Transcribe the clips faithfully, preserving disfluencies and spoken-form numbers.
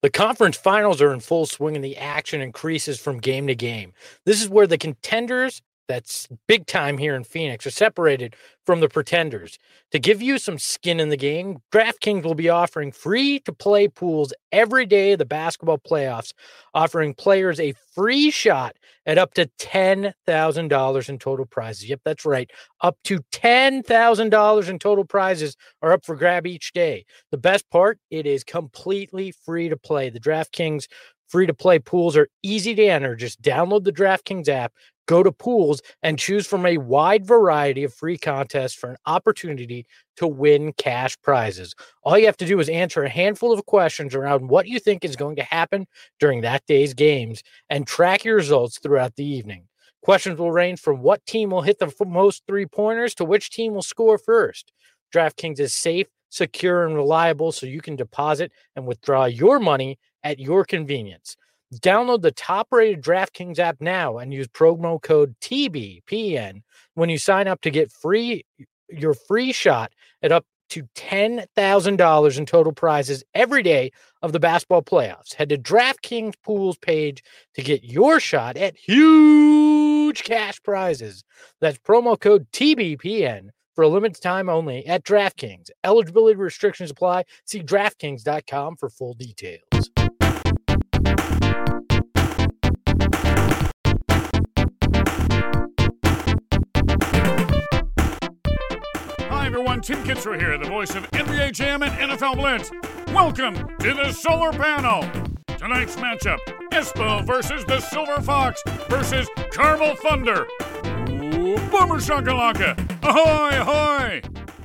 The conference finals are in full swing and the action increases from game to game. This is where the contenders, that's big time here in Phoenix, are separated from the pretenders. To give you some skin in the game, DraftKings will be offering free-to-play pools every day of the basketball playoffs, offering players a free shot at up to ten thousand dollars in total prizes. Yep, that's right. Up to ten thousand dollars in total prizes are up for grab each day. The best part, it is completely free to play. The DraftKings free-to-play pools are easy to enter. Just download the DraftKings app, go to pools, and choose from a wide variety of free contests for an opportunity to win cash prizes. All you have to do is answer a handful of questions around what you think is going to happen during that day's games and track your results throughout the evening. Questions will range from what team will hit the most three-pointers to which team will score first. DraftKings is safe, secure, and reliable, so you can deposit and withdraw your money at your convenience. Download the top-rated DraftKings app now and use promo code T B P N when you sign up to get free your free shot at up to ten thousand dollars in total prizes every day of the basketball playoffs. Head to DraftKings Pools page to get your shot at huge cash prizes. That's promo code T B P N for a limited time only at DraftKings. Eligibility restrictions apply. See DraftKings dot com for full details. Everyone, Tim Kitzrow here, the voice of N B A Jam and N F L Blitz. Welcome to the Solar Panel. Tonight's matchup, Espo versus the Silver Fox versus Carmel Thunder. Ooh, Boomer Shakalaka. Ahoy, ahoy.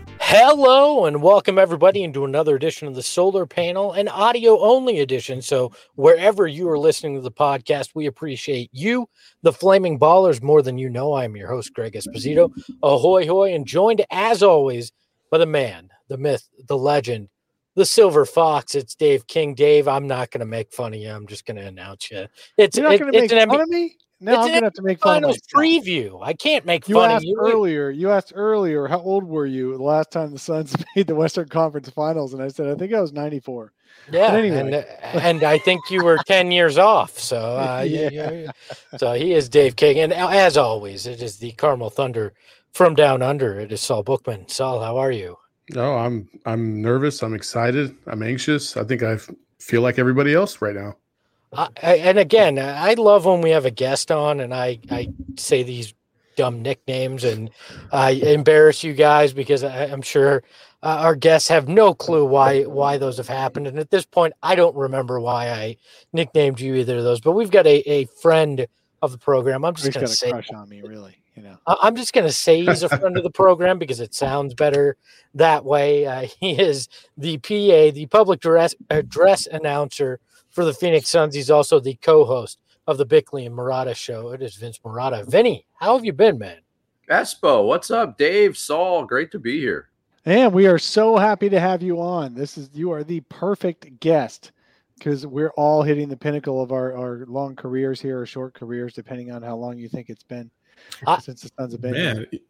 Hello and welcome everybody into another edition of the Solar Panel, an audio-only edition. So wherever you are listening to the podcast, we appreciate you, the Flaming Ballers, more than you know. I'm your host, Greg Esposito. Ahoy, hoy, and joined, as always, by the man, the myth, the legend, the Silver Fox. It's Dave King. Dave, I'm not going to make fun of you. I'm just going to announce you. It's, You're not it, going to make an fun of me? No, it's I'm going to have to make fun of Finals myself. preview. I can't make You fun asked of you. earlier. You asked earlier, how old were you the last time the Suns made the Western Conference Finals? And I said, I think I was ninety-four. Yeah, but anyway. and, uh, and I think you were ten years off. So, uh, yeah. yeah, yeah. So he is Dave King, and as always, it is the Carmel Thunder from down under. It is Saul Bookman. Saul, how are you? No, I'm I'm nervous. I'm excited. I'm anxious. I think I feel like everybody else right now. I, I, and again, I love when we have a guest on, and I I say these dumb nicknames, and I embarrass you guys because I, I'm sure uh, our guests have no clue why why those have happened. And at this point, I don't remember why I nicknamed you either of those. But we've got a, a friend of the program. I'm just going to say, crush on me, really. You know, I'm just going to say he's a friend of the program because it sounds better that way. Uh, he is the P A, the public address, address announcer for the Phoenix Suns. He's also the co-host of the Bickley and Murata show. It is Vince Murata. Vinny, how have you been, man? Espo, what's up? Dave, Saul, great to be here. And we are so happy to have you on. This is you are the perfect guest because we're all hitting the pinnacle of our, our long careers here or short careers, depending on how long you think it's been I, since the Suns have been Man. here.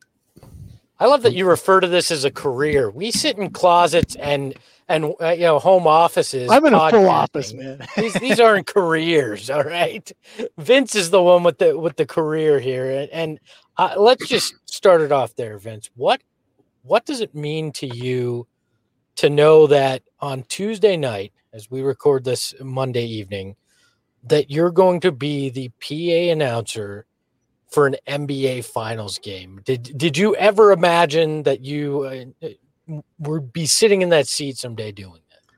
I love that you refer to this as a career. We sit in closets and and uh, you know home offices. I'm in a full podcasting. office, man. these these aren't careers, all right. Vince is the one with the with the career here, and, and uh, let's just start it off there, Vince. What what does it mean to you to know that on Tuesday night, as we record this Monday evening, that you're going to be the P A announcer for an N B A Finals game? Did did you ever imagine that you uh, would be sitting in that seat someday doing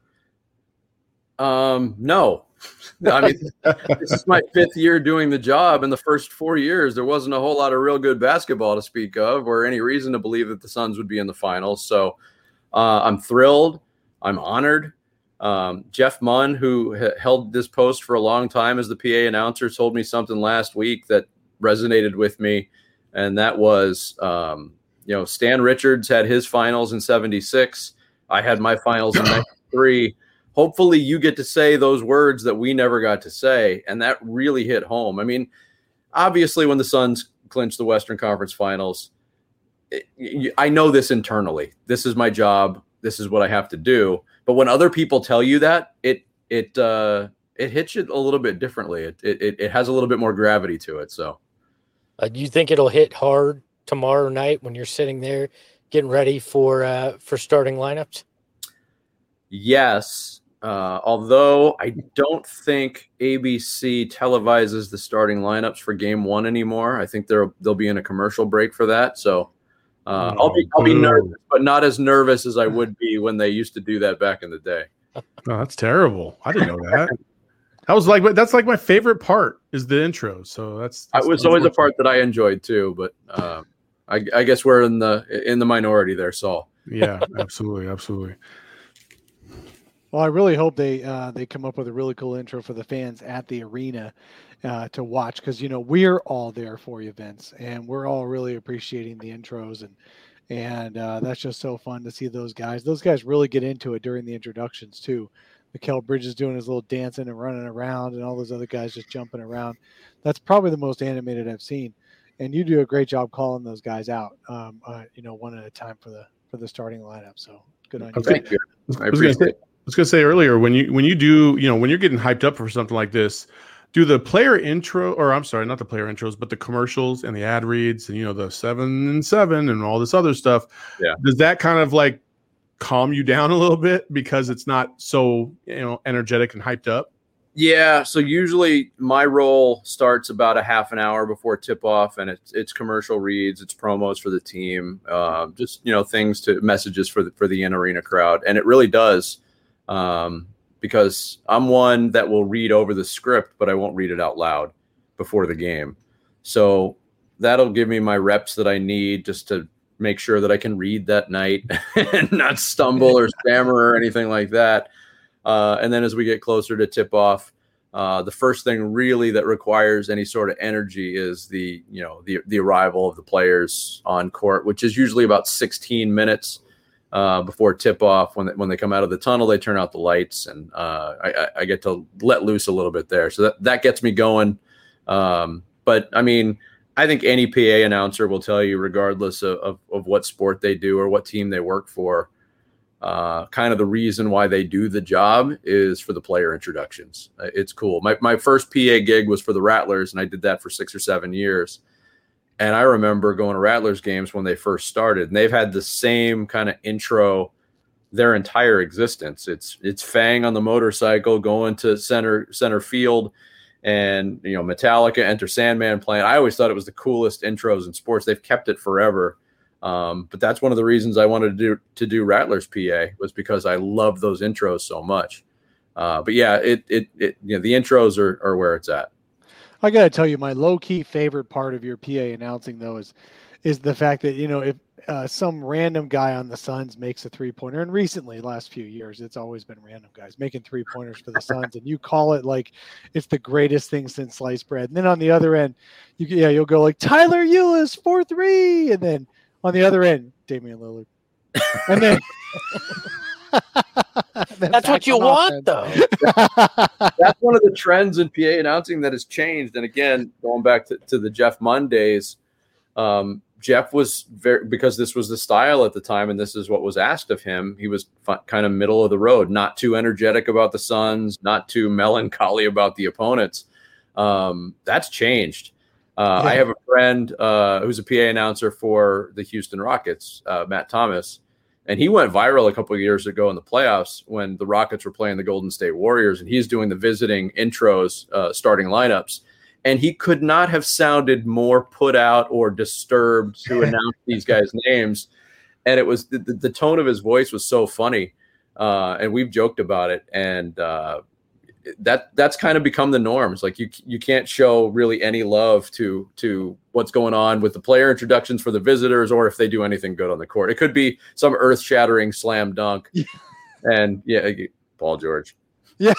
that? Um, no. I mean, this is my fifth year doing the job. In the first four years, there wasn't a whole lot of real good basketball to speak of or any reason to believe that the Suns would be in the finals. So uh, I'm thrilled. I'm honored. Um, Jeff Munn, who ha- held this post for a long time as the P A announcer, told me something last week that resonated with me, and that was um you know Stan Richards had his finals in seventy-six. I had my finals in ninety-three. Hopefully you get to say those words that we never got to say, and that really hit home. I mean, obviously when the Suns clinched the Western Conference Finals, it, I know this internally. This is my job. This is what I have to do. But when other people tell you that, it it uh, it hits you a little bit differently. It, it it has a little bit more gravity to it. So, uh, do you think it'll hit hard tomorrow night when you're sitting there getting ready for uh, for starting lineups? Yes. Uh, although I don't think A B C televises the starting lineups for game one anymore. I think they'll they'll be in a commercial break for that. So uh, oh, I'll be I'll be nervous, but not as nervous as I would be when they used to do that back in the day. Oh, that's terrible. I didn't know that. That was like that's like my favorite part is the intro. So that's, that's it was always a part that I enjoyed too. But uh, I, I guess we're in the in the minority there, Saul. Yeah, absolutely, absolutely. Well, I really hope they uh, they come up with a really cool intro for the fans at the arena uh, to watch, because you know we're all there for you, Vince, and we're all really appreciating the intros, and and uh, that's just so fun to see those guys. Those guys really get into it during the introductions too. Mikal Bridges doing his little dancing and running around, and all those other guys just jumping around. That's probably the most animated I've seen, and you do a great job calling those guys out, um, uh, you know, one at a time for the for the starting lineup. So good on you. Thank you. I appreciate it. I was going to say earlier, when you when you do, you know, when you're getting hyped up for something like this, do the player intro, or I'm sorry, not the player intros, but the commercials and the ad reads and, you know, the seven and seven and all this other stuff. Yeah. Does that kind of like calm you down a little bit because it's not so, you know, energetic and hyped up? Yeah. So usually my role starts about a half an hour before tip off, and it's, it's commercial reads, it's promos for the team, uh, just, you know, things to messages for the, for the in arena crowd. And it really does. Um, because I'm one that will read over the script, but I won't read it out loud before the game. So that'll give me my reps that I need just to make sure that I can read that night and not stumble or stammer or anything like that. Uh, and then as we get closer to tip off, uh, the first thing really that requires any sort of energy is the, you know, the, the arrival of the players on court, which is usually about sixteen minutes Uh, before tip off. When they, when they come out of the tunnel, they turn out the lights, and uh, I, I get to let loose a little bit there. So that, that gets me going. Um, but I mean, I think any P A announcer will tell you, regardless of, of, of what sport they do or what team they work for, uh, kind of the reason why they do the job is for the player introductions. Uh, it's cool. My, my first P A gig was for the Rattlers, and I did that for six or seven years. And I remember going to Rattlers games when they first started, and they've had the same kind of intro their entire existence. It's it's Fang on the motorcycle going to center center field, and you know Metallica, Enter Sandman playing. I always thought it was the coolest intros in sports. They've kept it forever, um, but that's one of the reasons I wanted to do to do Rattlers P A, was because I love those intros so much. Uh, but yeah, it it it you know the intros are are where it's at. I got to tell you, my low-key favorite part of your P A announcing, though, is is the fact that, you know, if uh, some random guy on the Suns makes a three-pointer, and recently, last few years, it's always been random guys making three-pointers for the Suns, and you call it like it's the greatest thing since sliced bread. And then on the other end, you yeah, you'll go like, Tyler Ulis, four three, and then on the other end, Damian Lillard. And then... That's what you want, though. That's one of the trends in P A announcing that has changed. And again, going back to, to the Jeff Mondays, um, Jeff was very, because this was the style at the time, and this is what was asked of him. He was f- kind of middle of the road, not too energetic about the Suns, not too melancholy about the opponents. Um, that's changed. Uh, yeah. I have a friend uh, who's a P A announcer for the Houston Rockets, uh, Matt Thomas. And he went viral a couple of years ago in the playoffs when the Rockets were playing the Golden State Warriors, and he's doing the visiting intros, uh, starting lineups. And he could not have sounded more put out or disturbed to announce these guys' names. And it was the, the tone of his voice was so funny. Uh, and we've joked about it. And uh, that that's kind of become the norm. It's like you you can't show really any love to to what's going on with the player introductions for the visitors, or if they do anything good on the court. It could be some earth-shattering slam dunk. Yeah. And yeah, Paul George. Yeah.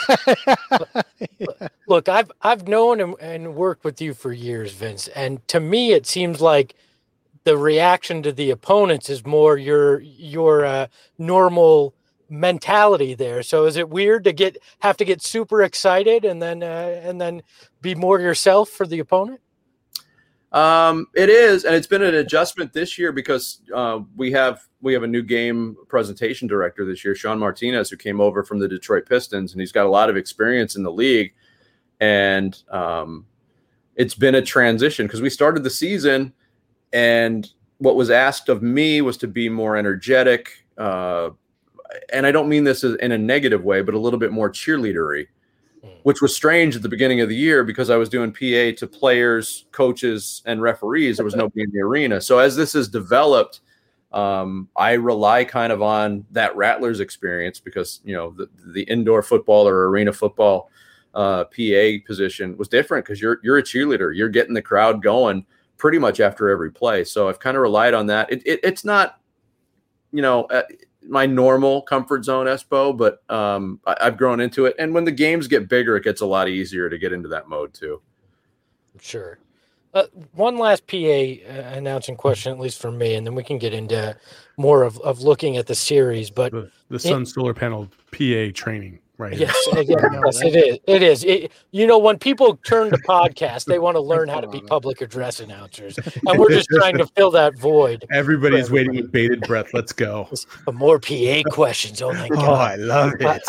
Look, I've I've known and, and worked with you for years, Vince, and to me it seems like the reaction to the opponents is more your your uh, normal mentality there. So is it weird to get have to get super excited and then uh, and then be more yourself for the opponent? Um, it is, and it's been an adjustment this year because uh, we have we have a new game presentation director this year, Sean Martinez, who came over from the Detroit Pistons, and he's got a lot of experience in the league. And um, it's been a transition because we started the season, and what was asked of me was to be more energetic, uh, and I don't mean this in a negative way, but a little bit more cheerleadery, which was strange at the beginning of the year because I was doing P A to players, coaches, and referees. There was nobody in the arena. So as this has developed, um, I rely kind of on that Rattlers experience because, you know, the, the indoor football or arena football uh, P A position was different because you're you're a cheerleader. You're getting the crowd going pretty much after every play. So I've kind of relied on that. It, it, it's not, you know, uh, my normal comfort zone, Espo, but um, I, I've grown into it. And when the games get bigger, it gets a lot easier to get into that mode too. Sure. Uh, one last P A uh, announcing question, at least for me, and then we can get into more of, of looking at the series. But The, the Sun it, Solar Panel P A training, right? yes, yes, yes, it is. It is. It, you know, when people turn to podcasts, they want to learn how to be public address announcers, and we're just trying to fill that void. Everybody's waiting with bated breath. Let's go. More P A questions. Oh my Oh, god! I love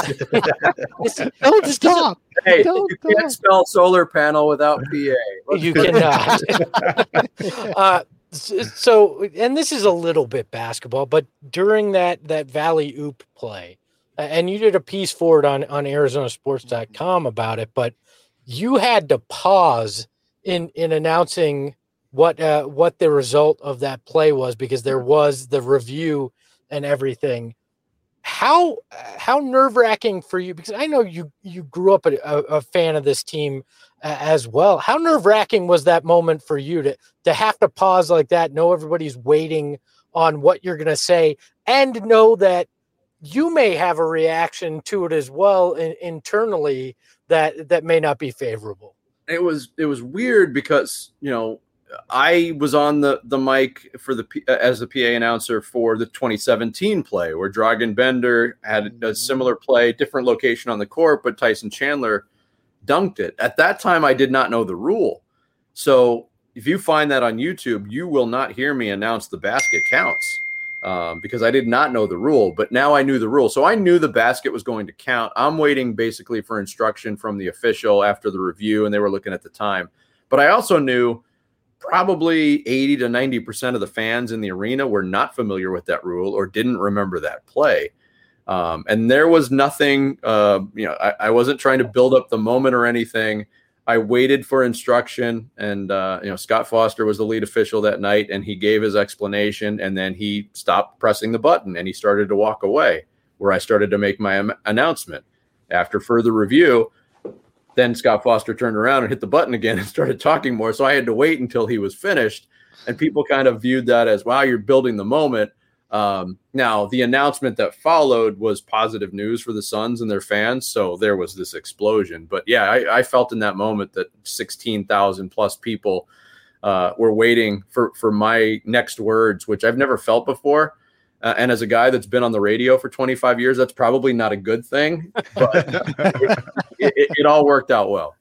it. Don't stop. Hey, Don't you can't stop. spell solar panel without P A. Let's You go. cannot. uh, s- so, and this is a little bit basketball, but during that that Valley Oop play, uh, and you did a piece for it on on Arizona Sports dot com about it, but you had to pause in in announcing what uh, what the result of that play was because there was the review and everything. How how nerve wracking for you? Because I know you you grew up a, a, a fan of this team uh, as well. How nerve wracking was that moment for you to to have to pause like that, know everybody's waiting on what you're going to say, and know that you may have a reaction to it as well in, internally that that may not be favorable. It was it was weird because, you know, I was on the, the mic for the as the P A announcer for the twenty seventeen play where Dragan Bender had a similar play, different location on the court, but Tyson Chandler dunked it. At that time, I did not know the rule. So if you find that on YouTube, you will not hear me announce the basket counts um, because I did not know the rule. But now I knew the rule. So I knew the basket was going to count. I'm waiting basically for instruction from the official after the review, and they were looking at the time. But I also knew probably eighty to ninety percent of the fans in the arena were not familiar with that rule or didn't remember that play. Um, and there was nothing, uh, you know, I, I wasn't trying to build up the moment or anything. I waited for instruction, and, uh, you know, Scott Foster was the lead official that night, and he gave his explanation, and then he stopped pressing the button and he started to walk away, where I started to make my am- announcement. After further review, then Scott Foster turned around and hit the button again and started talking more. So I had to wait until he was finished. And people kind of viewed that as, wow, you're building the moment. Um, now, the announcement that followed was positive news for the Suns and their fans. So there was this explosion. But yeah, I, I felt in that moment that sixteen thousand plus people uh, were waiting for, for my next words, which I've never felt before. Uh, and as a guy that's been on the radio for twenty-five years, that's probably not a good thing, but it, it, it all worked out well.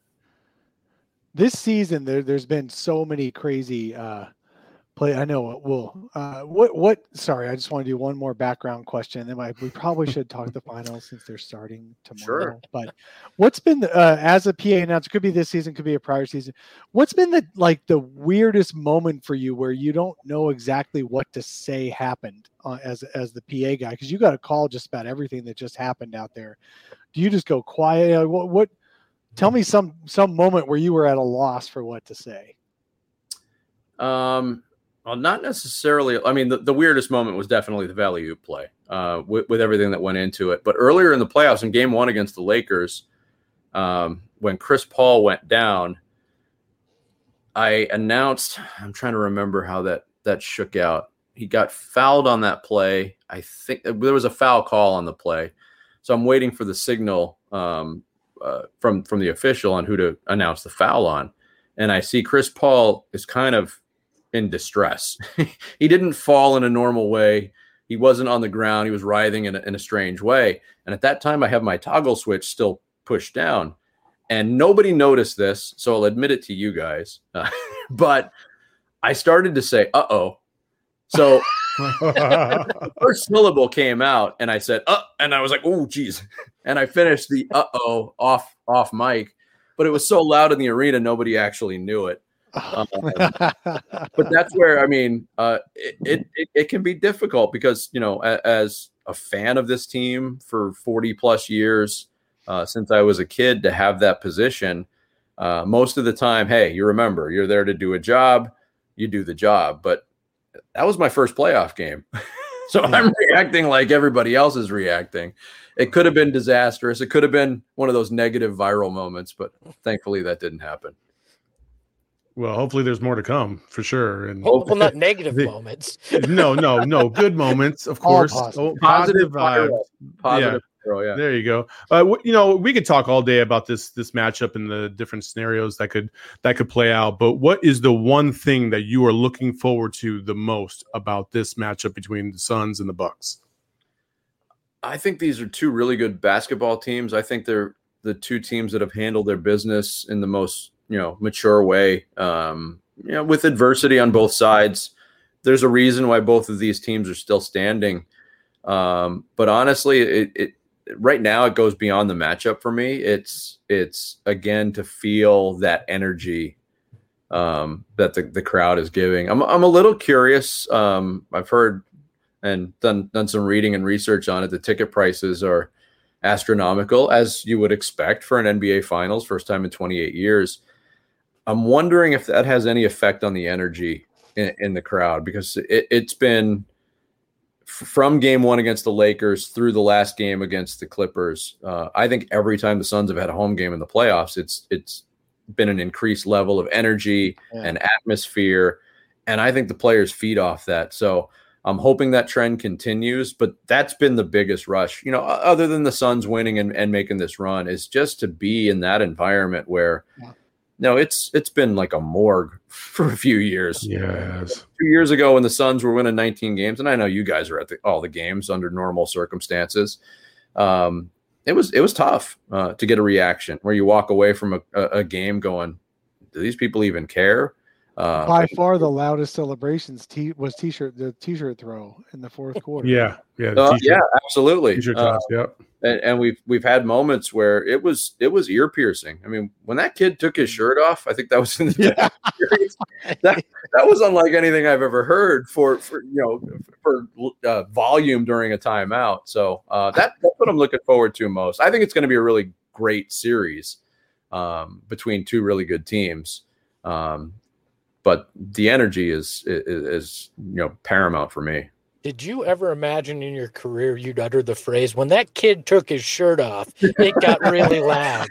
This season, there, there's been so many crazy uh, play. I know. Well, uh, what, what, sorry, I just want to do one more background question. And then I, we probably should talk the finals since they're starting tomorrow. Sure. But what's been, the, uh, as a P A announcer, could be this season, could be a prior season. What's been the, like the weirdest moment for you where you don't know exactly what to say happened uh, as, as the P A guy? Cause you got to call just about everything that just happened out there. Do you just go quiet? Uh, what, what, tell me some, some moment where you were at a loss for what to say. Um, Well, not necessarily. I mean, the, the weirdest moment was definitely the Valley Oop play uh, with, with everything that went into it. But earlier in the playoffs, in game one against the Lakers, um, when Chris Paul went down, I announced, I'm trying to remember how that, that shook out. He got fouled on that play. I think there was a foul call on the play. So I'm waiting for the signal um, uh, from, from the official on who to announce the foul on. And I see Chris Paul is kind of in distress. He didn't fall in a normal way. He wasn't on the ground. He was writhing in a, in a strange way. And at that time, I have my toggle switch still pushed down. And nobody noticed this, so I'll admit it to you guys. Uh, but I started to say, uh-oh. So the first syllable came out and I said, uh, and I was like, oh, geez. And I finished the uh-oh off, off mic, but it was so loud in the arena, nobody actually knew it. Um, but that's where, I mean, uh, it, it, it, it can be difficult because, you know, a, as a fan of this team for forty plus years, uh, since I was a kid, to have that position, uh, most of the time, hey, you remember, you're there to do a job, you do the job. But that was my first playoff game. So I'm reacting like everybody else is reacting. It could have been disastrous. It could have been one of those negative viral moments, but thankfully that didn't happen. Well, hopefully there's more to come for sure. And well, well not negative the, moments. no, no, no. Good moments, of course. Positive, oh, positive vibes. Positive. Yeah. Viral, yeah. There you go. Uh, w- you know, we could talk all day about this this matchup and the different scenarios that could that could play out. But what is the one thing that you are looking forward to the most about this matchup between the Suns and the Bucks? I think these are two really good basketball teams. I think they're the two teams that have handled their business in the most, you know, mature way. Um, you know, with adversity on both sides, there's a reason why both of these teams are still standing. Um, but honestly, it, it right now it goes beyond the matchup for me. It's it's again to feel that energy um, that the, the crowd is giving. I'm I'm a little curious. Um, I've heard and done done some reading and research on it. The ticket prices are astronomical, as you would expect for an N B A Finals, first time in twenty-eight years. I'm wondering if that has any effect on the energy in, in the crowd, because it, it's been from game one against the Lakers through the last game against the Clippers. Uh, I think every time the Suns have had a home game in the playoffs, it's it's been an increased level of energy yeah. and atmosphere. And I think the players feed off that. So I'm hoping that trend continues, but that's been the biggest rush, you know, other than the Suns winning and, and making this run, is just to be in that environment where, yeah. no, it's it's been like a morgue for a few years. Yes. Two years ago when the Suns were winning nineteen games, and I know you guys are at the, all the games under normal circumstances, um, it was it was tough uh, to get a reaction where you walk away from a, a, a game going, do these people even care? Uh, By far the loudest celebrations t- was t-shirt the t-shirt throw in the fourth quarter. Yeah, yeah, uh, yeah, absolutely. T-shirt uh, toss, yeah. And, and we've we've had moments where it was it was ear piercing. I mean, when that kid took his shirt off, I think that was in the yeah. that that was unlike anything I've ever heard for for you know for uh, volume during a timeout. So uh, that that's what I'm looking forward to most. I think it's going to be a really great series um, between two really good teams. Um, But the energy is, is, is, you know, paramount for me. Did you ever imagine in your career you'd utter the phrase, when that kid took his shirt off, it got really loud?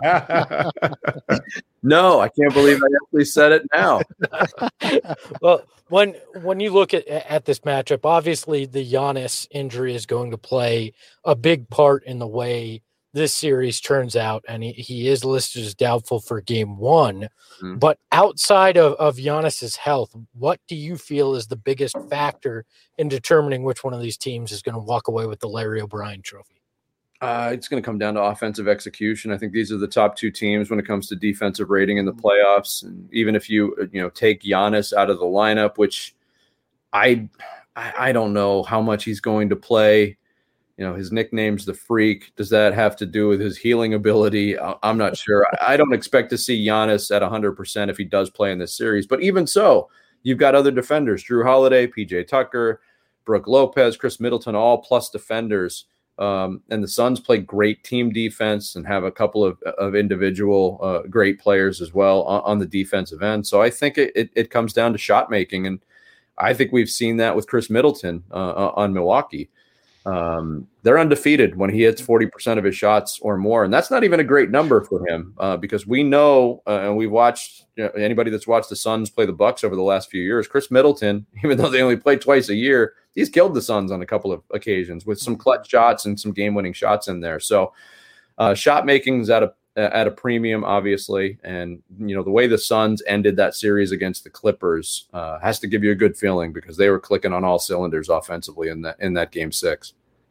No, I can't believe I actually said it now. Well, when when you look at, at this matchup, obviously the Giannis injury is going to play a big part in the way this series turns out, and he, he is listed as doubtful for game one. Mm-hmm. But outside of, of Giannis's health, what do you feel is the biggest factor in determining which one of these teams is going to walk away with the Larry O'Brien trophy? Uh, it's going to come down to offensive execution. I think these are the top two teams when it comes to defensive rating in the playoffs. And even if you, you know, take Giannis out of the lineup, which I, I don't know how much he's going to play. You know, his nickname's the Freak. Does that have to do with his healing ability? I'm not sure. I don't expect to see Giannis at one hundred percent if he does play in this series. But even so, you've got other defenders, Drew Holiday, P J Tucker, Brooke Lopez, Chris Middleton, all plus defenders. Um, and the Suns play great team defense and have a couple of, of individual uh, great players as well on, on the defensive end. So I think it, it, it comes down to shot making. And I think we've seen that with Chris Middleton uh, on Milwaukee. Um, they're undefeated when he hits forty percent of his shots or more. And that's not even a great number for him uh, because we know, uh, and we've watched, you know, anybody that's watched the Suns play the Bucks over the last few years, Chris Middleton, even though they only play twice a year, he's killed the Suns on a couple of occasions with some clutch shots and some game-winning shots in there. So uh, shot making's at a, at a premium, obviously. And, you know, the way the Suns ended that series against the Clippers uh, has to give you a good feeling because they were clicking on all cylinders offensively in that, in that game six.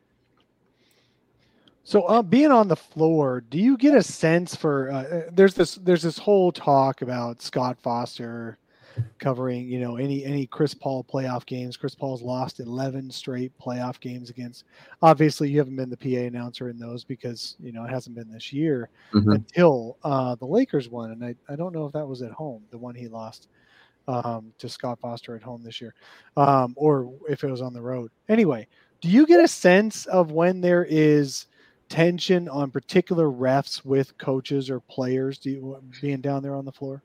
So uh, being on the floor, do you get a sense for uh, there's this there's this whole talk about Scott Foster covering, you know, any any Chris Paul playoff games. Chris Paul's lost eleven straight playoff games against. Obviously, you haven't been the P A announcer in those because, you know, it hasn't been this year mm-hmm. until uh, the Lakers won. And I, I don't know if that was at home, the one he lost um, to Scott Foster at home this year, um, or if it was on the road. Anyway, do you get a sense of when there is tension on particular refs with coaches or players do you, being down there on the floor?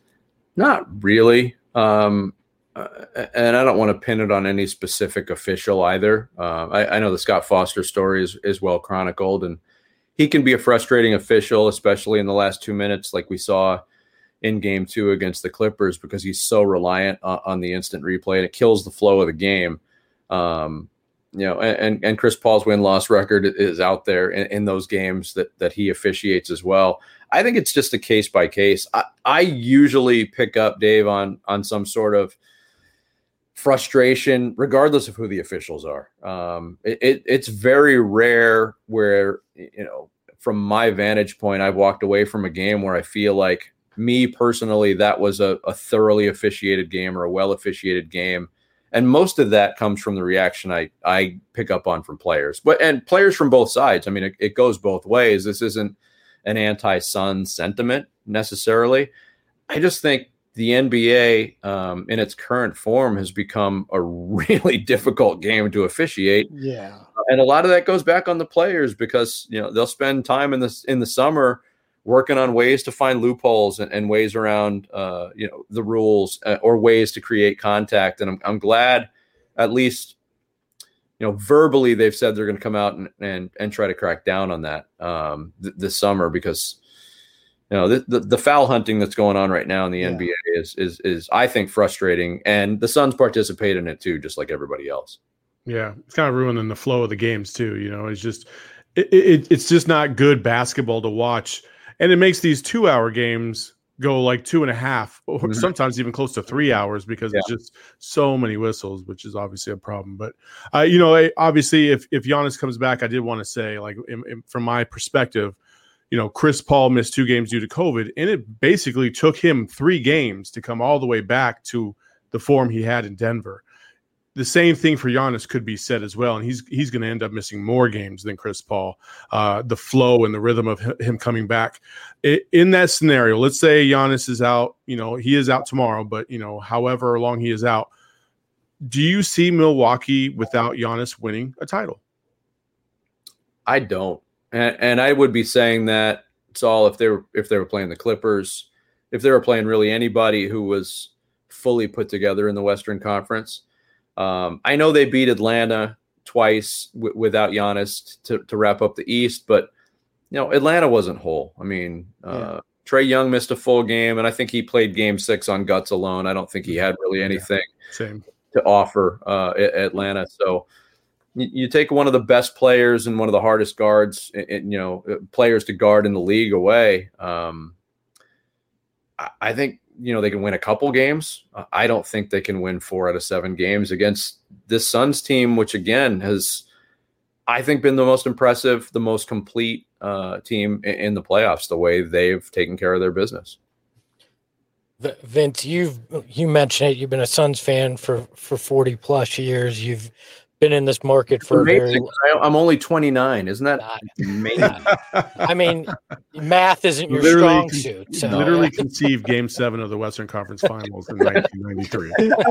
Not really. Um, uh, and I don't want to pin it on any specific official either. Uh, I, I know the Scott Foster story is, is well chronicled, and he can be a frustrating official, especially in the last two minutes, like we saw in game two against the Clippers, because he's so reliant on, on the instant replay, and it kills the flow of the game. Um, You know, and, and Chris Paul's win-loss record is out there in, in those games that that he officiates as well. I think it's just a case by case. I, I usually pick up, Dave, on on some sort of frustration, regardless of who the officials are. Um, it, it, it's very rare where, you know, from my vantage point, I've walked away from a game where I feel like, me personally, that was a, a thoroughly officiated game or a well officiated game. And most of that comes from the reaction I, I pick up on from players, but and players from both sides. I mean, it, it goes both ways. This isn't an anti-Sun sentiment necessarily. I just think the N B A um, in its current form has become a really difficult game to officiate. Yeah. And a lot of that goes back on the players because, you know, they'll spend time in this in the summer working on ways to find loopholes and, and ways around, uh, you know, the rules uh, or ways to create contact. And I'm, I'm glad, at least, you know, verbally they've said they're going to come out and, and and try to crack down on that um, th- this summer because, you know, the, the the foul hunting that's going on right now in the yeah. N B A is is is I think frustrating, and the Suns participate in it too, just like everybody else. Yeah, it's kind of ruining the flow of the games too. You know, it's just it, it it's just not good basketball to watch. And it makes these two-hour games go like two and a half, or mm-hmm. sometimes even close to three hours because yeah. it's just so many whistles, which is obviously a problem. But, uh, you know, obviously if, if Giannis comes back, I did want to say, like, in, in, from my perspective, you know, Chris Paul missed two games due to COVID, and it basically took him three games to come all the way back to the form he had in Denver. The same thing for Giannis could be said as well, and he's he's going to end up missing more games than Chris Paul. Uh, the flow and the rhythm of him coming back. It, in that scenario, let's say Giannis is out, you know, he is out tomorrow, but, you know, however long he is out, do you see Milwaukee without Giannis winning a title? I don't. And, and I would be saying that it's all if they were, if they were playing the Clippers, if they were playing really anybody who was fully put together in the Western Conference. Um, I know they beat Atlanta twice w- without Giannis to, to wrap up the East, but, you know, Atlanta wasn't whole. I mean, uh, yeah. Trae Young missed a full game, and I think he played game six on guts alone. I don't think he had really anything yeah, same. to offer uh, at Atlanta. So you, you take one of the best players and one of the hardest guards, and, you know, players to guard in the league away. Um, I, I think, you know, they can win a couple games. I don't think they can win four out of seven games against this Suns team, which again has, I think, been the most impressive, the most complete uh, team in, in the playoffs, the way they've taken care of their business. Vince, you've, you mentioned it. You've been a Suns fan for, for forty plus years. You've been in this market for a very long time. I'm only twenty-nine. Isn't that not, amazing? I mean, math isn't your literally strong con- suit. So. Literally conceived Game Seven of the Western Conference Finals in nineteen ninety-three.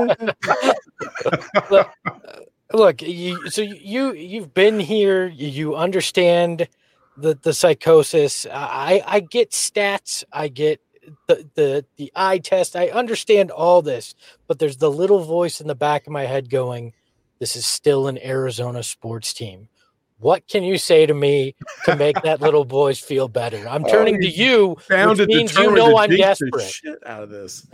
look, look you, so you you've been here. You understand the the psychosis. I I get stats. I get the the the eye test. I understand all this, but there's the little voice in the back of my head going, this is still an Arizona sports team. What can you say to me to make that little voice feel better? I'm turning oh, to you, which means you know I'm desperate. Shit out of this.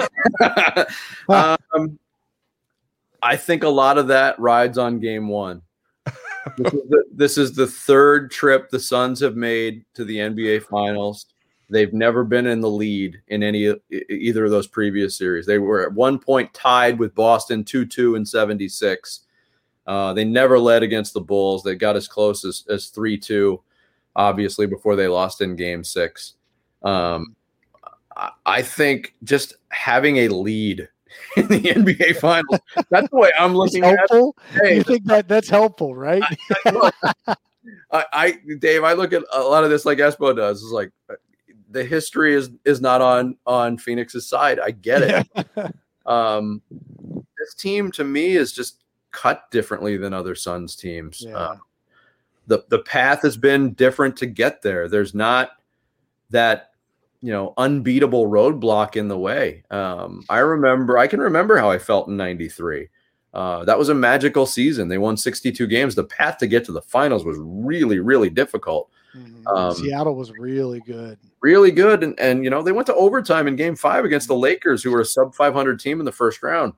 um, I think a lot of that rides on game one. This is, the, this is the third trip the Suns have made to the N B A Finals. They've never been in the lead in any either of those previous series. They were at one point tied with Boston two two in seventy-six. Uh, they never led against the Bulls. They got as close as, as three two, obviously, before they lost in game six. Um, I, I think just having a lead in the N B A Finals, that's the way I'm looking at it. Hey, you think that that's helpful, right? I, look, I, I, Dave, I look at a lot of this like Espo does. It's like the history is is not on on Phoenix's side. I get it. um, this team to me is just cut differently than other Suns teams. Yeah. Uh, the the path has been different to get there. There's not that, you know, unbeatable roadblock in the way. Um, I remember, I can remember how I felt in ninety-three. Uh, that was a magical season. They won sixty-two games. The path to get to the finals was really, really difficult. Mm-hmm. Um, Seattle was really good. Really good. And, and, you know, they went to overtime in game five against the Lakers, who were a sub five hundred team in the first round.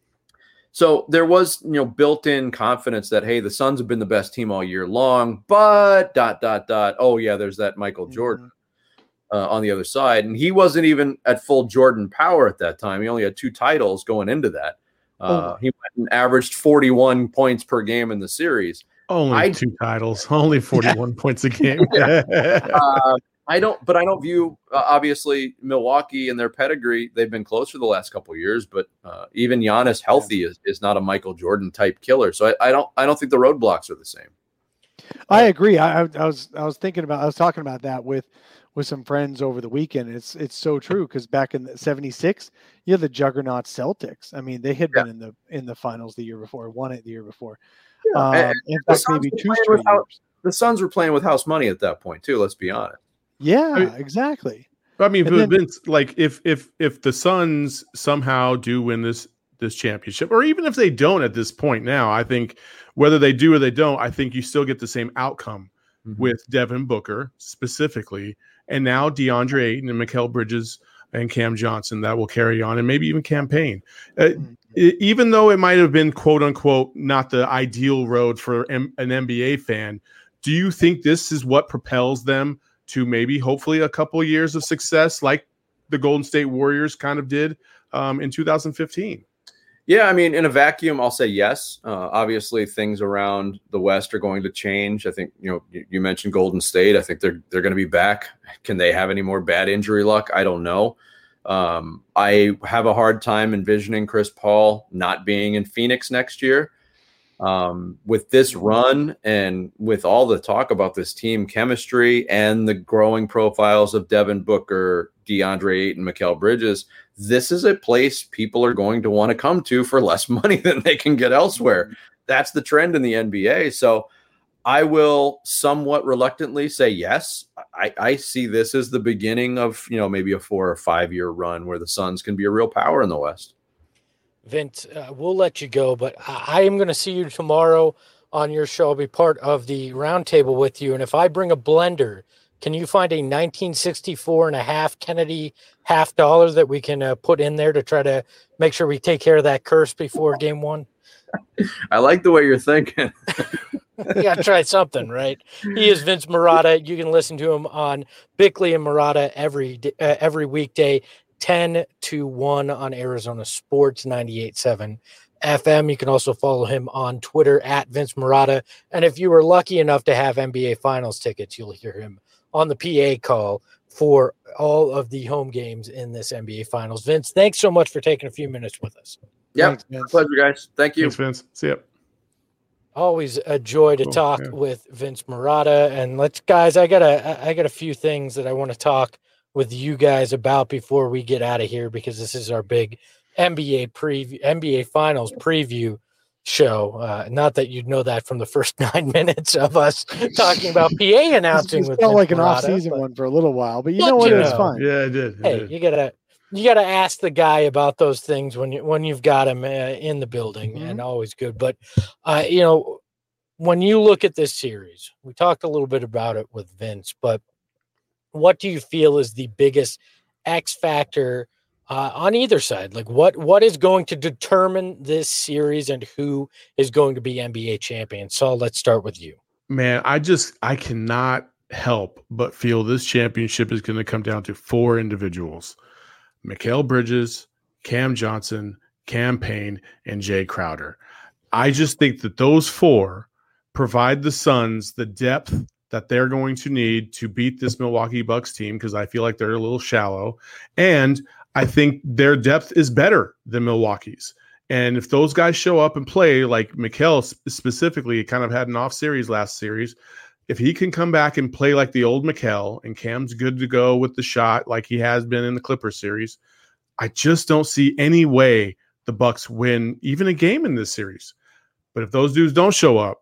So there was, you know, built-in confidence that, hey, the Suns have been the best team all year long, but dot, dot, dot. Oh, yeah, there's that Michael Jordan mm-hmm. uh, on the other side. And he wasn't even at full Jordan power at that time. He only had two titles going into that. Uh, oh. He went and averaged forty-one points per game in the series. Only I, two titles, only forty-one points a game. uh, I don't, but I don't view uh, obviously Milwaukee and their pedigree. They've been close for the last couple of years, but uh, even Giannis healthy is, is not a Michael Jordan type killer. So I, I don't, I don't think the roadblocks are the same. I agree. I, I was, I was thinking about, I was talking about that with, with some friends over the weekend. It's, it's so true. Cause back in the seventy-six, you have the juggernaut Celtics. I mean, they had yeah. been in the, in the finals the year before, won it the year before. Yeah. Um, and, in fact, maybe two straight years. The Suns were playing with house money at that point too. Let's be honest. Yeah, I mean, exactly. I mean, then, Vince, like if if if the Suns somehow do win this this championship, or even if they don't at this point now, I think whether they do or they don't, I think you still get the same outcome mm-hmm. with Devin Booker specifically, and now DeAndre Ayton and Mikal Bridges and Cam Johnson that will carry on, and maybe even Cam Payne. Uh, mm-hmm. it, even though it might have been quote unquote not the ideal road for M- an N B A fan, do you think this is what propels them to maybe hopefully a couple of years of success like the Golden State Warriors kind of did um, in two thousand fifteen? Yeah, I mean, in a vacuum, I'll say yes. Uh, obviously, things around the West are going to change. I think, you know, you, you mentioned Golden State. I think they're they're going to be back. Can they have any more bad injury luck? I don't know. Um, I have a hard time envisioning Chris Paul not being in Phoenix next year. Um, with this run and with all the talk about this team chemistry and the growing profiles of Devin Booker, DeAndre Ayton, Mikal Bridges, this is a place people are going to want to come to for less money than they can get elsewhere. That's the trend in the N B A. So I will somewhat reluctantly say yes. I, I see this as the beginning of, you know, maybe a four or five year run where the Suns can be a real power in the West. Vince, uh, we'll let you go, but I, I am going to see you tomorrow on your show. I'll be part of the roundtable with you. And if I bring a blender, can you find a nineteen sixty-four and a half Kennedy half dollar that we can uh, put in there to try to make sure we take care of that curse before game one? I like the way you're thinking. You got to try something, right? He is Vince Marotta. You can listen to him on Bickley and Marotta every, uh, every weekday. ten to one on Arizona Sports ninety-eight point seven F M. You can also follow him on Twitter at Vince Marotta. And if you were lucky enough to have N B A Finals tickets, you'll hear him on the P A call for all of the home games in this N B A Finals. Vince, thanks so much for taking a few minutes with us. Yeah, pleasure, guys. Thank you. Thanks, Vince. See ya. Always a joy to cool. talk yeah. with Vince Marotta. And let's, guys, I got a, I got a few things that I want to talk with you guys about before we get out of here, because this is our big N B A preview, N B A Finals preview show. Uh, not that you'd know that from the first nine minutes of us talking about P A announcing. It with felt like an Marotta, off-season but, one for a little while, but you know what? It was fun. Yeah, it did. It hey, did. you gotta you gotta ask the guy about those things when you when you've got him uh, in the building, mm-hmm. and always good. But uh, you know, when you look at this series, we talked a little bit about it with Vince, but what do you feel is the biggest X factor uh, on either side? Like what, what is going to determine this series and who is going to be N B A champion? Saul, let's start with you. Man, I just, I cannot help but feel this championship is going to come down to four individuals: Mikal Bridges, Cam Johnson, Cam Payne, and Jay Crowder. I just think that those four provide the Suns the depth that they're going to need to beat this Milwaukee Bucks team, because I feel like they're a little shallow. And I think their depth is better than Milwaukee's. And if those guys show up and play, like Mikal specifically kind of had an off series last series, if he can come back and play like the old Mikal, and Cam's good to go with the shot like he has been in the Clippers series, I just don't see any way the Bucks win even a game in this series. But if those dudes don't show up,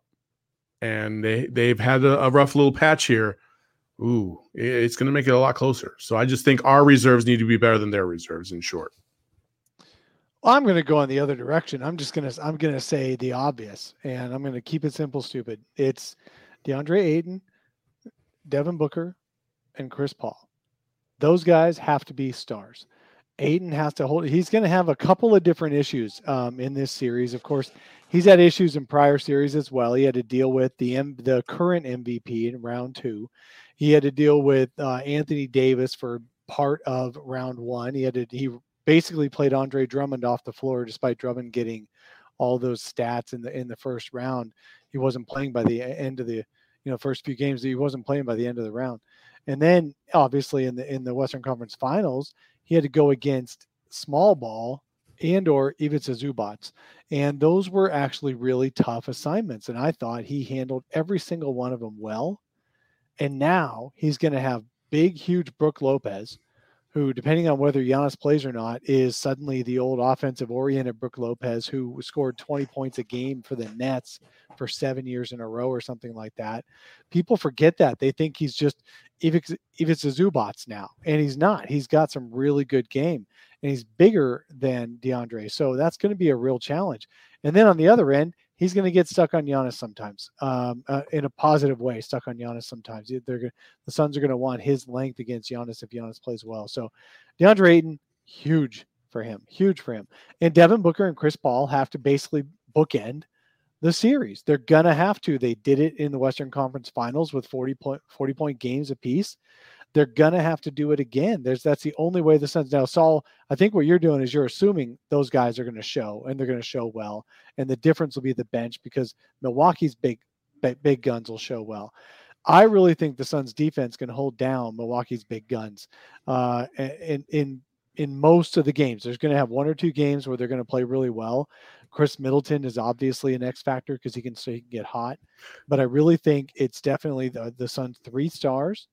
and they, they've had a, a rough little patch here, ooh, it's going to make it a lot closer. So I just think our reserves need to be better than their reserves, in short. Well, I'm going to go in the other direction. I'm just going to I'm going to say the obvious, and I'm going to keep it simple, stupid. It's DeAndre Ayton, Devin Booker, and Chris Paul. Those guys have to be stars. Ayton has to hold. He's going to have a couple of different issues um, in this series. Of course, he's had issues in prior series as well. He had to deal with the M, the current M V P in round two. He had to deal with uh, Anthony Davis for part of round one. He had to. He basically played Andre Drummond off the floor, despite Drummond getting all those stats in the in the first round. He wasn't playing by the end of the you know first few games. He wasn't playing by the end of the round. And then obviously in the in the Western Conference Finals, he had to go against small ball and or Ivica Zubac. And those were actually really tough assignments. And I thought he handled every single one of them well. And now he's going to have big, huge Brook Lopez, who, depending on whether Giannis plays or not, is suddenly the old offensive-oriented Brook Lopez, who scored twenty points a game for the Nets for seven years in a row or something like that. People forget that. They think he's just Ivica Zubac now, and he's not. He's got some really good game, and he's bigger than DeAndre. So that's going to be a real challenge. And then on the other end, he's going to get stuck on Giannis sometimes, um, uh, in a positive way, stuck on Giannis sometimes. They're gonna, the Suns are going to want his length against Giannis if Giannis plays well. So DeAndre Ayton, huge for him, huge for him. And Devin Booker and Chris Paul have to basically bookend the series. They're going to have to. They did it in the Western Conference Finals with forty point, forty point games apiece. They're going to have to do it again. There's That's the only way the Suns. Now, Saul, I think what you're doing is you're assuming those guys are going to show, and they're going to show well. And the difference will be the bench, because Milwaukee's big, big, big guns will show well. I really think the Suns defense can hold down Milwaukee's big guns uh, in, in, in most of the games. There's going to have one or two games where they're going to play really well. Chris Middleton is obviously an X factor because he can, so he can get hot. But I really think it's definitely the, the Suns' three stars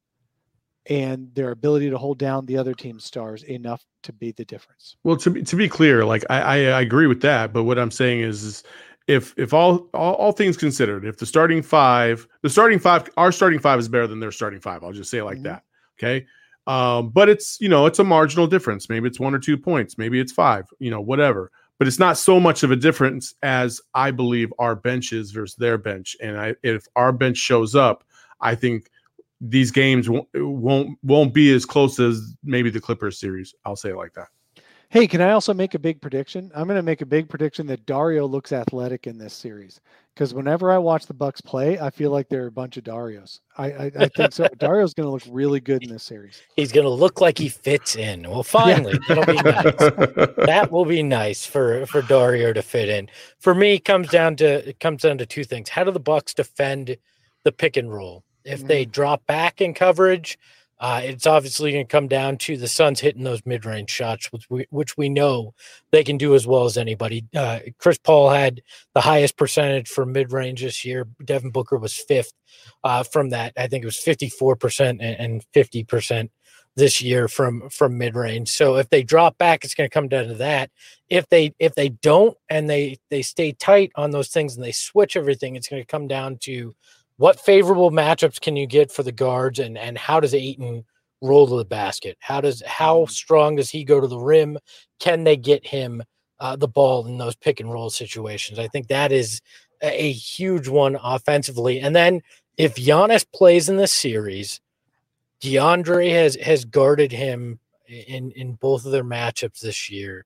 and their ability to hold down the other team's stars enough to be the difference. Well, to be to be clear, like I, I, I agree with that, but what I'm saying is, is if if all, all all things considered, if the starting five, the starting five, our starting five is better than their starting five. I'll just say it like mm-hmm. that. Okay. Um, but it's, you know, it's a marginal difference. Maybe it's one or two points, maybe it's five, you know, whatever. But it's not so much of a difference as I believe our bench is versus their bench. And I, if our bench shows up, I think these games won't, won't won't be as close as maybe the Clippers series. I'll say it like that. Hey, can I also make a big prediction? I'm going to make a big prediction that Dario looks athletic in this series, because whenever I watch the Bucks play, I feel like they're a bunch of Darios. I, I, I think so. Dario's going to look really good in this series. He's going to look like he fits in. Well, finally, yeah. It'll be nice. That will be nice for, for Dario to fit in. For me, it comes down to it comes down to two things. How do the Bucks defend the pick and roll? If mm-hmm. they drop back in coverage, Uh, it's obviously going to come down to the Suns hitting those mid-range shots, which we, which we know they can do as well as anybody. Uh, Chris Paul had the highest percentage for mid-range this year. Devin Booker was fifth uh, from that. I think it was fifty-four percent and fifty percent this year from, from mid-range. So if they drop back, it's going to come down to that. If they if they don't and they they stay tight on those things and they switch everything, it's going to come down to what favorable matchups can you get for the guards, and, and how does Ayton roll to the basket? How does how strong does he go to the rim? Can they get him uh, the ball in those pick and roll situations? I think that is a, a huge one offensively. And then if Giannis plays in this series, DeAndre has has guarded him in, in both of their matchups this year.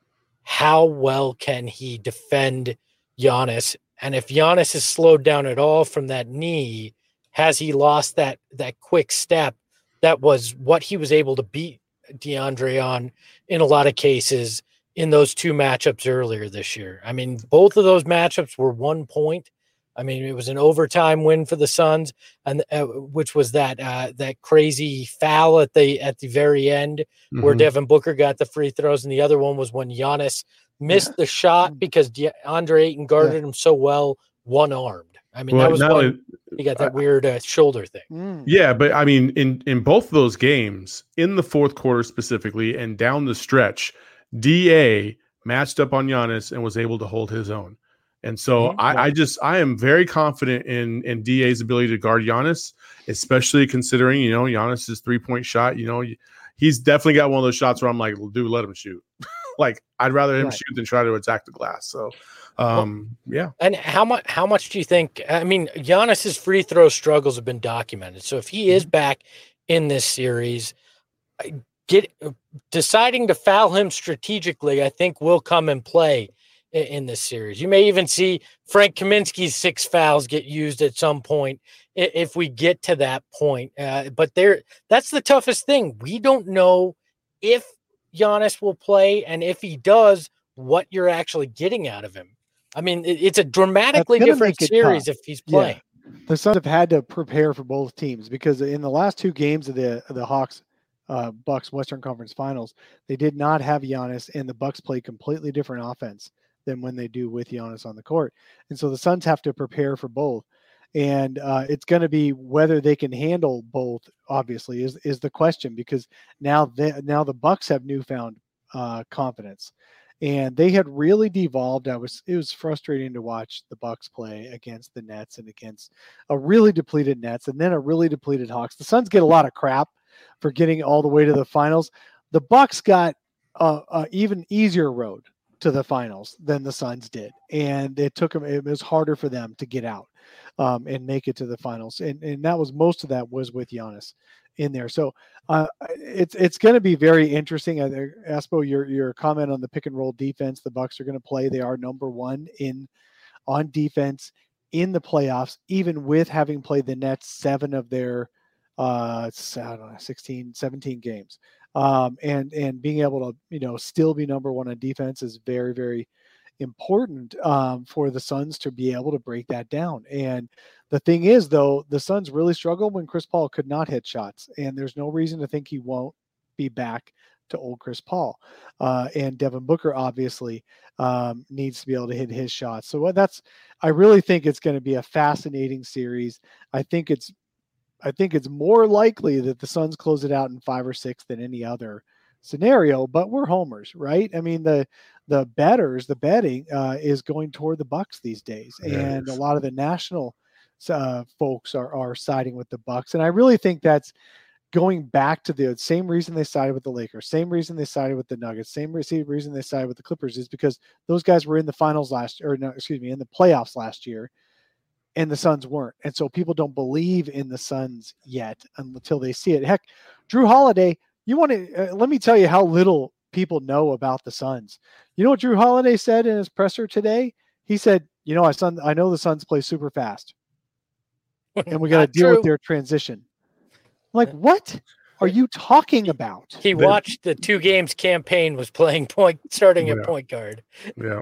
How well can he defend Giannis? And if Giannis is slowed down at all from that knee, has he lost that that quick step? That was what he was able to beat DeAndre on in a lot of cases in those two matchups earlier this year. I mean, both of those matchups were one point I mean, it was an overtime win for the Suns, and uh, which was that uh, that crazy foul at the at the very end mm-hmm. where Devin Booker got the free throws, and the other one was when Giannis missed yeah. the shot because De- Andre Ayton guarded yeah. him so well, one armed. I mean, well, that was one. Only, he got that uh, weird uh, shoulder thing. Yeah, but I mean, in in both of those games, in the fourth quarter specifically, and down the stretch, D A matched up on Giannis and was able to hold his own. And so mm-hmm. I, I just I am very confident in in D A's ability to guard Giannis, especially considering, you know, Giannis's three-point shot. You know, he's definitely got one of those shots where I'm like, well, dude, let him shoot. Like, I'd rather him right. shoot than try to attack the glass. So, um, well, yeah. And how much how much do you think? I mean, Giannis's free throw struggles have been documented. So if he is back in this series, get deciding to foul him strategically, I think will come in play in this series. You may even see Frank Kaminsky's six fouls get used at some point if we get to that point. Uh, but there, that's the toughest thing. We don't know if Giannis will play, and if he does, what you're actually getting out of him. I mean, it, it's a dramatically different series tough. If he's playing. Yeah. The Suns have had to prepare for both teams because in the last two games of the the Hawks uh, Bucks Western Conference Finals, they did not have Giannis, and the Bucks played completely different offense than when they do with Giannis on the court. And so the Suns have to prepare for both. And uh, it's going to be whether they can handle both, obviously, is, is the question, because now they, now the Bucks have newfound uh, confidence. And they had really devolved. I was it was frustrating to watch the Bucks play against the Nets and against a really depleted Nets and then a really depleted Hawks. The Suns get a lot of crap for getting all the way to the finals. The Bucks got a, a even easier road to the finals than the Suns did. And it took them, it was harder for them to get out um, and make it to the finals. And, and that was, most of that was with Giannis in there. So uh, it's, it's going to be very interesting. Uh, Espo, your, your comment on the pick and roll defense, the Bucks are going to play. They are number one in on defense in the playoffs, even with having played the Nets seven of their uh, I don't know, sixteen, seventeen games. Um, and, and being able to, you know, still be number one on defense is very, very important um, for the Suns to be able to break that down. And the thing is, though, the Suns really struggled when Chris Paul could not hit shots, and there's no reason to think he won't be back to old Chris Paul. Uh, and Devin Booker obviously um, needs to be able to hit his shots. So that's, I really think it's going to be a fascinating series. I think it's, I think it's more likely that the Suns close it out in five or six than any other scenario, but we're homers, right? I mean, the, the bettors, the betting uh, is going toward the Bucks these days. Yes. And a lot of the national uh, folks are, are siding with the Bucks. And I really think that's going back to the same reason they sided with the Lakers, same reason they sided with the Nuggets, same reason they sided with the Clippers, is because those guys were in the finals last or no, excuse me, in the playoffs last year. And the Suns weren't. And so people don't believe in the Suns yet until they see it. Heck, Drew Holiday, you want to, uh, let me tell you how little people know about the Suns. You know what Drew Holiday said in his presser today? He said, you know, I, son, I know the Suns play super fast and we got to deal true. with their transition. I'm like, what are you talking about? He watched the two games campaign was playing point, starting yeah. at point guard. Yeah.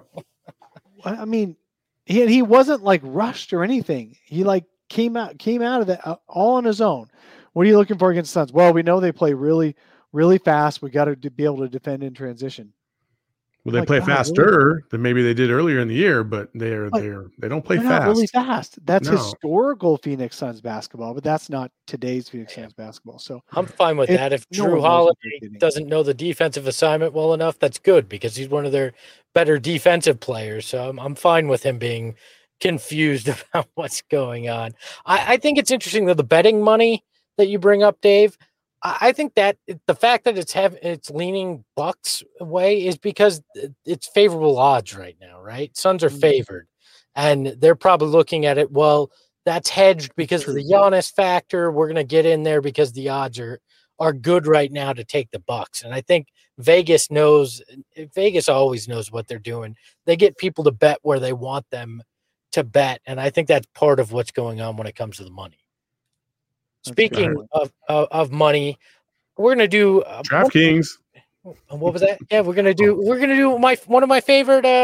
I mean, He he wasn't like rushed or anything. He like came out came out of that uh, all on his own. What are you looking for against the Suns? Well, we know they play really really fast. We got to be able to defend in transition. Well, they like, play faster really? than maybe they did earlier in the year, but they're like, they're they don't play they're fast. Not really fast. That's no. historical Phoenix Suns basketball, but that's not today's Phoenix Suns basketball. So I'm fine with it, that. If no Drew Holiday doesn't know the defensive assignment well enough, that's good because he's one of their better defensive players. So I'm, I'm fine with him being confused about what's going on. I, I think it's interesting that the betting money that you bring up, Dave, I, I think that the fact that it's have it's leaning Bucks way is because it's favorable odds right now, right? Suns are favored, and they're probably looking at it, well, that's hedged because of the Giannis factor. We're going to get in there because the odds are are good right now to take the Bucks. And I think Vegas knows, Vegas always knows what they're doing. They get people to bet where they want them to bet. And I think that's part of what's going on when it comes to the money. That's Speaking of, of, of money, we're going to do uh, DraftKings. What, what was that? Yeah, we're going to do, we're going to do my, one of my favorite uh,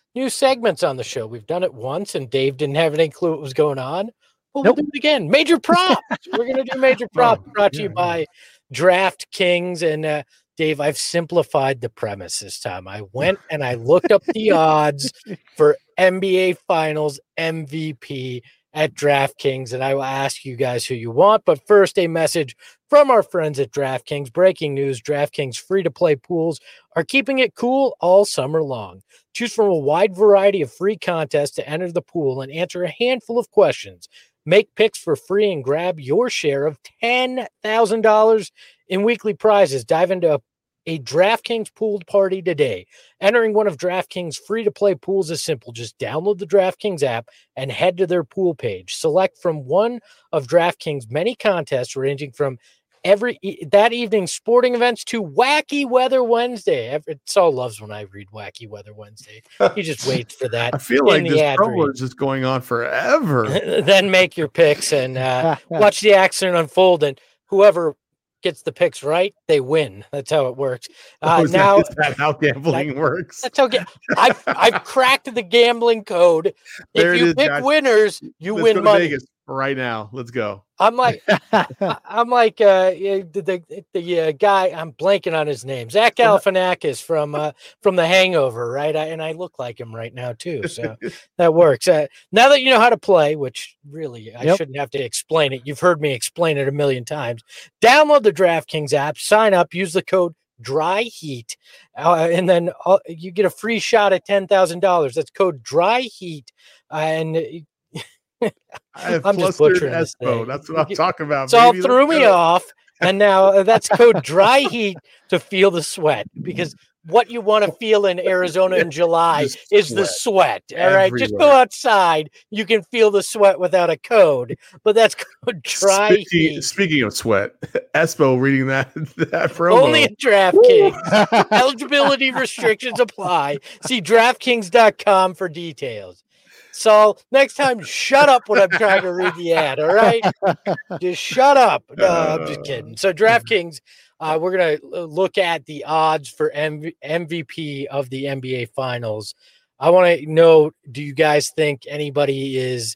new segments on the show. We've done it once, and Dave didn't have any clue what was going on. Well, Nope. we'll do it again. Major props. We're going to do major props Oh, brought to yeah, you yeah. by DraftKings. And uh, Dave, I've simplified the premise this time. I went and I looked up the odds for N B A Finals M V P at DraftKings, and I will ask you guys who you want. But first, a message from our friends at DraftKings. Breaking news: DraftKings free-to-play pools are keeping it cool all summer long. Choose from a wide variety of free contests to enter the pool and answer a handful of questions. Make picks for free and grab your share of ten thousand dollars in weekly prizes. Dive into a, a DraftKings pooled party today. Entering one of DraftKings free-to-play pools is simple. Just download the DraftKings app and head to their pool page. Select from one of DraftKings' many contests ranging from every that evening's sporting events to Wacky Weather Wednesday. Saul loves when I read Wacky Weather Wednesday. He just waits for that. I feel in like the this ad promo read. is just going on forever. Then make your picks and uh, watch the action unfold. And whoever gets the picks right, they win. That's how it works. Uh, Oh, is that- now is that how gambling works? that's how ga- I've I've cracked the gambling code. There If it you is, pick guys. winners, you Let's win go to money. Vegas right now. Let's go. I'm like, I- I'm like uh, yeah, the the, the uh, guy. I'm blanking on his name. Zach Galifianakis from uh, from The Hangover, right? I, and I look like him right now too, so that works. Uh, now that you know how to play, which really I Yep. shouldn't have to explain it. You've heard me explain it a million times. Download the DraftKings app, sign up, use the code Dry Heat, uh, and then uh, you get a free shot at ten thousand dollars. That's code Dry Heat, uh, and. I have I'm just flustered butchering this Espo. thing. That's what I'm talking about. So all baby. threw Let's me go. off, and now uh, that's code Dry Heat to feel the sweat, because what you want to feel in Arizona in July Just is the sweat. All right, just go everywhere. outside. You can feel the sweat without a code, but that's code Dry Speaking, Heat. speaking of sweat, Espo reading that that promo. Only at DraftKings. Eligibility restrictions apply. See DraftKings dot com for details. So next time, shut up when I'm trying to read the ad. All right, just shut up. No, I'm just kidding. So DraftKings, uh, we're gonna look at the odds for M V P of the N B A Finals. I want to know: do you guys think anybody is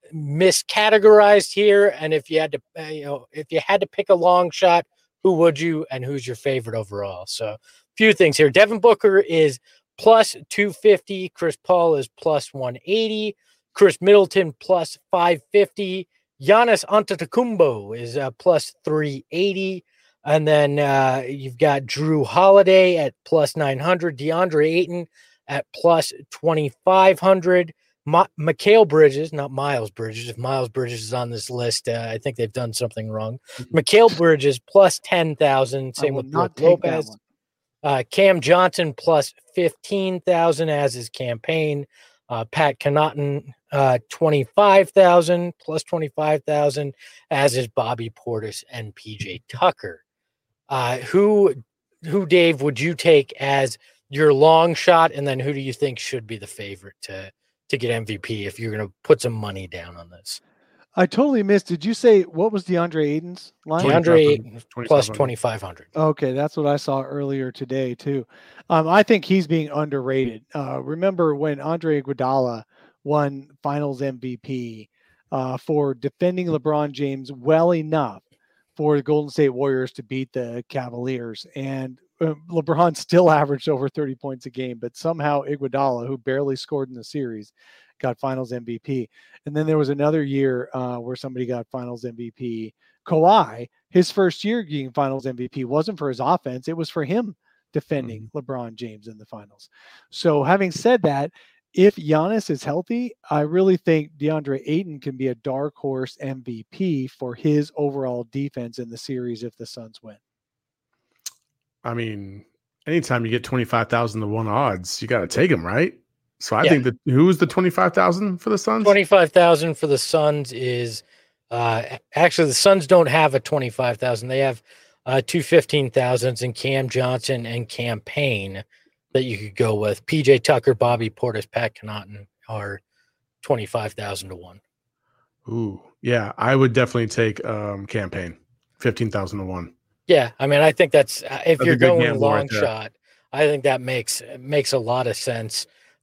miscategorized here? And if you had to, uh, you know, if you had to pick a long shot, who would you, and who's your favorite overall? So a few things here. Devin Booker is plus two fifty. Chris Paul is plus one eighty. Chris Middleton plus five fifty. Giannis Antetokounmpo is uh, plus three eighty. And then uh, you've got Drew Holiday at plus nine hundred. DeAndre Ayton at plus twenty-five hundred. Ma- Mikal Bridges, not Miles Bridges. If Miles Bridges is on this list, uh, I think they've done something wrong. Mikal Bridges plus ten thousand. I Same will with not Brook take that Lopez. one. Uh, Cam Johnson plus fifteen thousand as his campaign. Uh, Pat Connaughton uh, twenty-five thousand plus twenty-five thousand as is Bobby Portis and P J Tucker. Uh, who, who Dave would you take as your long shot, and then who do you think should be the favorite to to get M V P if you're going to put some money down on this? I totally missed. Did you say what was DeAndre Ayton's line? DeAndre Ayton plus twenty-five hundred. twenty-five hundred. Okay, that's what I saw earlier today too. Um, I think he's being underrated. Uh, remember when Andre Iguodala won Finals M V P uh, for defending LeBron James well enough for the Golden State Warriors to beat the Cavaliers, and uh, LeBron still averaged over thirty points a game, but somehow Iguodala, who barely scored in the series, got Finals M V P. And then there was another year uh, where somebody got Finals M V P. Kawhi, his first year getting Finals M V P wasn't for his offense. It was for him defending mm-hmm. LeBron James in the finals. So having said that, if Giannis is healthy, I really think DeAndre Ayton can be a dark horse M V P for his overall defense in the series if the Suns win. I mean, anytime you get twenty-five thousand to one odds, you got to take them, right? So I Yeah. think that who's the twenty-five thousand for the Suns? twenty-five thousand for the Suns is uh, actually the Suns don't have a twenty-five thousand. They have uh, two fifteen thousands in Cam Johnson and Cam Payne that you could go with. P J Tucker, Bobby Portis, Pat Connaughton are twenty-five thousand to one. Ooh, yeah, I would definitely take um, campaign fifteen thousand to one. Yeah, I mean, I think that's uh, if That's you're a good going gamble long right there. shot, I think that makes makes a lot of sense.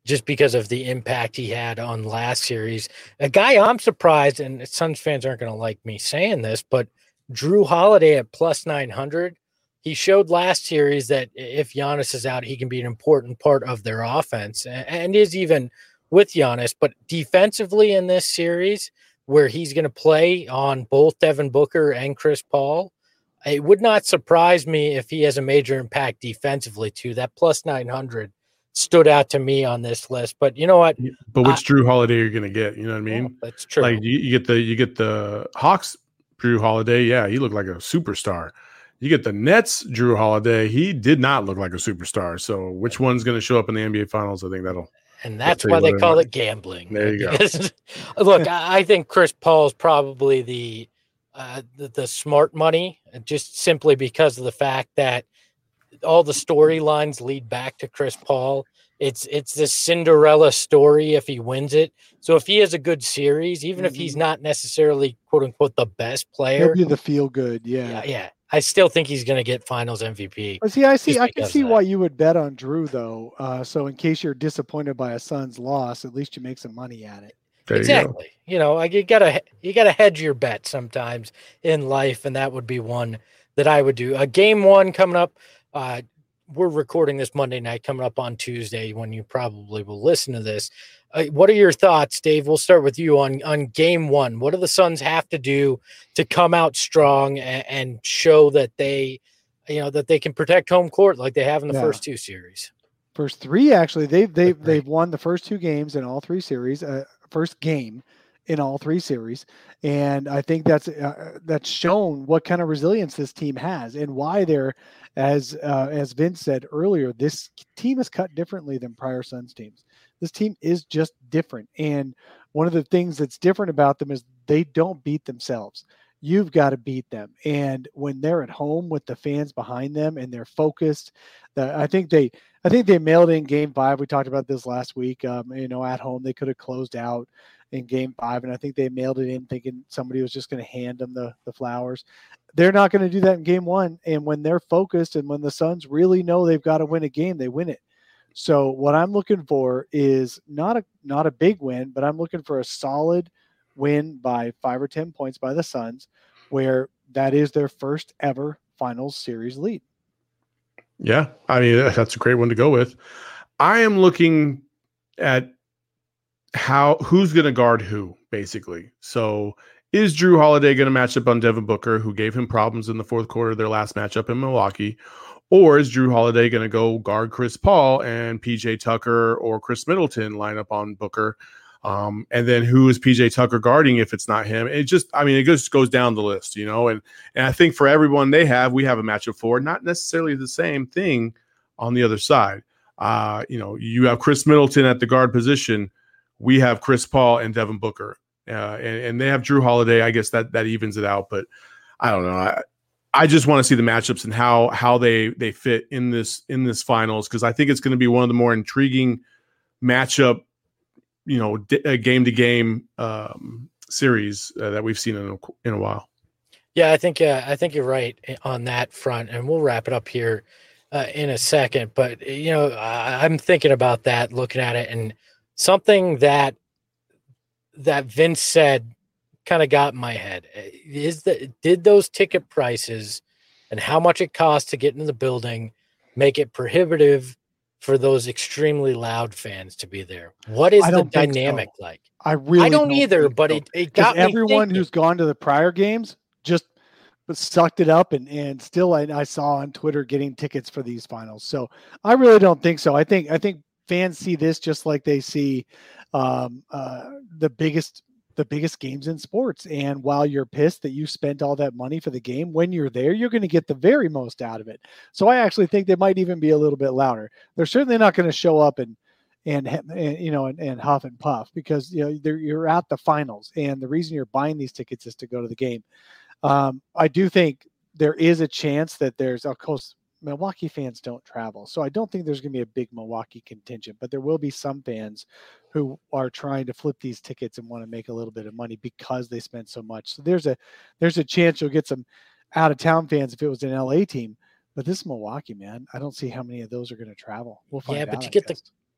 just because of the impact he had on last series. A guy I'm surprised, and Suns fans aren't going to like me saying this, but Drew Holiday at plus nine hundred. He showed last series that if Giannis is out, he can be an important part of their offense, and is even with Giannis. But defensively in this series, where he's going to play on both Devin Booker and Chris Paul, it would not surprise me if he has a major impact defensively too. That plus nine hundred stood out to me on this list. But you know what? But which I, Drew Holiday you're going to get? You know what I mean? Well, that's true. Like you, you get the you get the Hawks Drew Holiday. Yeah, he looked like a superstar. You get the Nets Drew Holiday. He did not look like a superstar. So which one's going to show up in the N B A Finals? I think that'll. And that's why they call it gambling. There you because, go. Look, I think Chris Paul is probably the, uh, the the smart money, just simply because of the fact that all the storylines lead back to Chris Paul. It's it's this Cinderella story if he wins it. So if he has a good series, even mm-hmm. if he's not necessarily quote unquote the best player, he'll be the feel good. Yeah, yeah. yeah. I still think he's going to get Finals M V P. But see, I see, I can see why you would bet on Drew though. Uh, so in case you're disappointed by a Suns loss, at least you make some money at it. There exactly. You, you know, like you gotta you gotta hedge your bet sometimes in life, and that would be one that I would do. A uh, game one coming up. Uh, we're recording this Monday night, coming up on Tuesday when you probably will listen to this. Uh, what are your thoughts, Dave? We'll start with you on, on game one. What do the Suns have to do to come out strong and, and show that they, you know, that they can protect home court like they have in the yeah. first two series? First three, actually, they've they've they've won the first two games in all three series. Uh, first game in all three series, and I think that's uh, that's shown what kind of resilience this team has and why they're, as uh, as Vince said earlier, this team is cut differently than prior Suns teams. This team is just different, and one of the things that's different about them is they don't beat themselves. You've got to beat them, and when they're at home with the fans behind them and they're focused, the, I think they I think they mailed in game five. We talked about this last week. Um, you know, at home they could have closed out in game five, and I think they mailed it in thinking somebody was just going to hand them the, the flowers. They're not going to do that in game one, and when they're focused and when the Suns really know they've got to win a game, they win it. So what I'm looking for is not a not a big win, but I'm looking for a solid win by five or ten points by the Suns, where that is their first ever finals series lead. Yeah, I mean, that's a great one to go with. I am looking at how who's going to guard who, basically. So is Drew Holiday going to match up on Devin Booker, who gave him problems in the fourth quarter of their last matchup in Milwaukee? Or is Drew Holiday going to go guard Chris Paul and P J Tucker or Chris Middleton line up on Booker? Um, and then who is P J Tucker guarding if it's not him? It just, I mean, it just goes down the list, you know, and, and I think for everyone they have, we have a matchup for, not necessarily the same thing on the other side. Uh, you know, you have Chris Middleton at the guard position. We have Chris Paul and Devin Booker, uh, and, and they have Drew Holiday. I guess that, that evens it out, but I don't know. I, I just want to see the matchups and how, how they, they fit in this, in this finals. Cause I think it's going to be one of the more intriguing matchup, you know, a game to game um, series uh, that we've seen in a, in a while. Yeah, I think uh, I think you're right on that front, and we'll wrap it up here uh, in a second. But you know, I, I'm thinking about that, looking at it, and something that that Vince said kind of got in my head is that did those ticket prices and how much it costs to get into the building make it prohibitive for those extremely loud fans to be there? What is the dynamic so. like? I really I don't, don't either, but so. it, it got everyone me thinking. Who's gone to the prior games just sucked it up, and and still I, I saw on Twitter getting tickets for these finals. So I really don't think so. I think I think fans see this just like they see um, uh, the biggest the biggest games in sports. And while you're pissed that you spent all that money for the game, when you're there, you're going to get the very most out of it. So I actually think they might even be a little bit louder. They're certainly not going to show up and, and, and you know, and, and huff and puff, because, you know, you're at the finals, and the reason you're buying these tickets is to go to the game. Um, I do think there is a chance that there's, of course, Milwaukee fans don't travel, so I don't think there's going to be a big Milwaukee contingent, but there will be some fans who are trying to flip these tickets and want to make a little bit of money because they spent so much. So there's a there's a chance you'll get some out of town fans if it was an L A team, but this Milwaukee, man, I don't see how many of those are going to travel. We'll find yeah, out. but you I get guess. the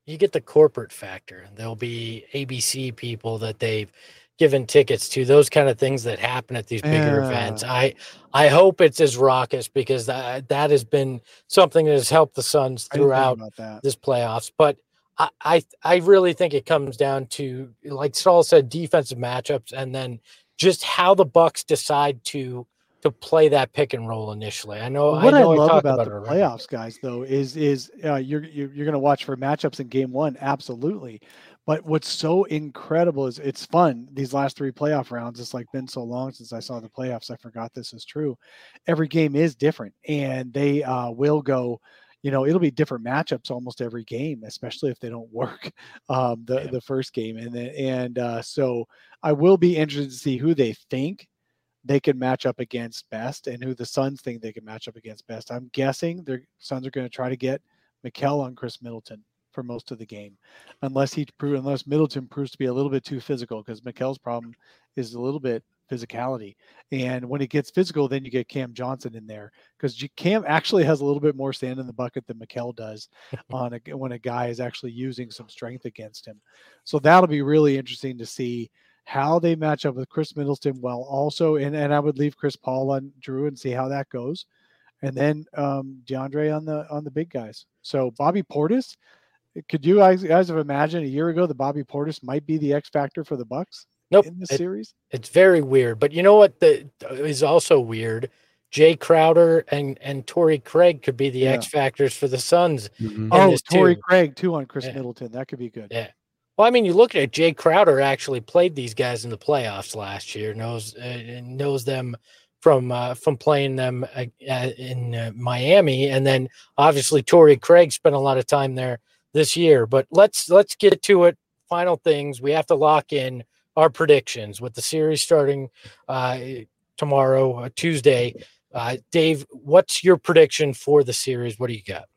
you get the corporate factor. There'll be A B C people that they've given tickets to, those kind of things that happen at these bigger Yeah. events. I I hope it's as raucous, because that, that has been something that has helped the Suns I didn't think throughout about that. this playoffs. But I, I I really think it comes down to, like Saul said, defensive matchups, and then just how the Bucks decide to to play that pick and roll initially. I know What I I, know I love talked about, about the it already. playoffs, guys, though, is is uh, you're you're, you're going to watch for matchups in game one, absolutely. But what's so incredible is it's fun. These last three playoff rounds, it's like been so long since I saw the playoffs. I forgot this is true. Every game is different, and they uh, will go. You know, it'll be different matchups almost every game, especially if they don't work um, the Yeah. the first game. And then, and uh, so I will be interested to see who they think they can match up against best, and who the Suns think they can match up against best. I'm guessing the Suns are going to try to get Mikal on Chris Middleton for most of the game, unless he unless Middleton proves to be a little bit too physical, because Mikal's problem is a little bit physicality. And when it gets physical, then you get Cam Johnson in there, because Cam actually has a little bit more sand in the bucket than Mikal does on a, when a guy is actually using some strength against him. So that'll be really interesting to see how they match up with Chris Middleton, while also, and, and I would leave Chris Paul on Jrue and see how that goes. And then um, DeAndre on the on the big guys. So Bobby Portis, could you guys, guys have imagined a year ago that Bobby Portis might be the X factor for the Bucks Nope. in this It- series? It's very weird. But you know what the, is also weird? Jay Crowder and, and Torrey Craig could be the Yeah. X factors for the Suns. Mhm. in Oh, this Torrey too. Craig too on Chris Yeah. Middleton. That could be good. Yeah. Well, I mean, you look at it, Jay Crowder actually played these guys in the playoffs last year, knows uh, knows them from uh, from playing them uh, uh, in uh, Miami, and then obviously Torrey Craig spent a lot of time there this year. But let's let's get to it. Final things, we have to lock in our predictions with the series starting uh, tomorrow, uh, Tuesday. Uh, Dave, what's your prediction for the series? What do you got?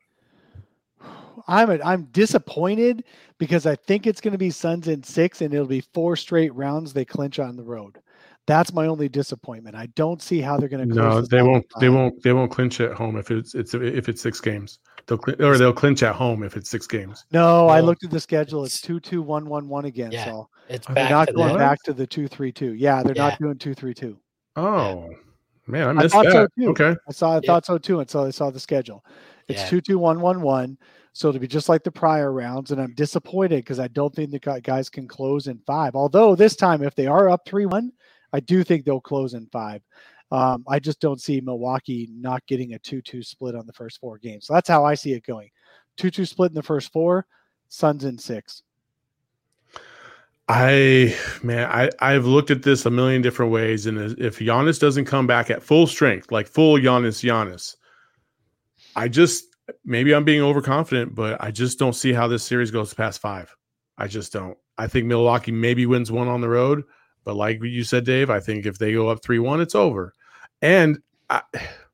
I'm a, I'm disappointed, because I think it's going to be Suns in six, and it'll be four straight rounds they clinch on the road. That's my only disappointment. I don't see how they're going to. No, they won't. They won't. They won't clinch at home if it's it's if it's six games. They'll cl- or they'll clinch at home if it's six games. No, I No. looked at the schedule. It's two two one one one again. Yeah, So It's Are they're back not to going that. back to the two three two. Yeah, they're Yeah. not doing two three two. Oh man, I I missed thought so that. too. Okay, I saw. I Yeah. thought so too until I saw the schedule. It's Yeah. two two one one one. So it'll be just like the prior rounds, and I'm disappointed because I don't think the gu- guys can close in five. Although this time, if they are up three one, I do think they'll close in five. Um, I just don't see Milwaukee not getting a two two split on the first four games. So that's how I see it going. two two split in the first four, Suns in six. I man, I I've looked at this a million different ways, and if Giannis doesn't come back at full strength, like full Giannis, Giannis, I just maybe I'm being overconfident, but I just don't see how this series goes past five. I just don't. I think Milwaukee maybe wins one on the road, but like you said, Dave, I think if they go up three one, it's over. And I,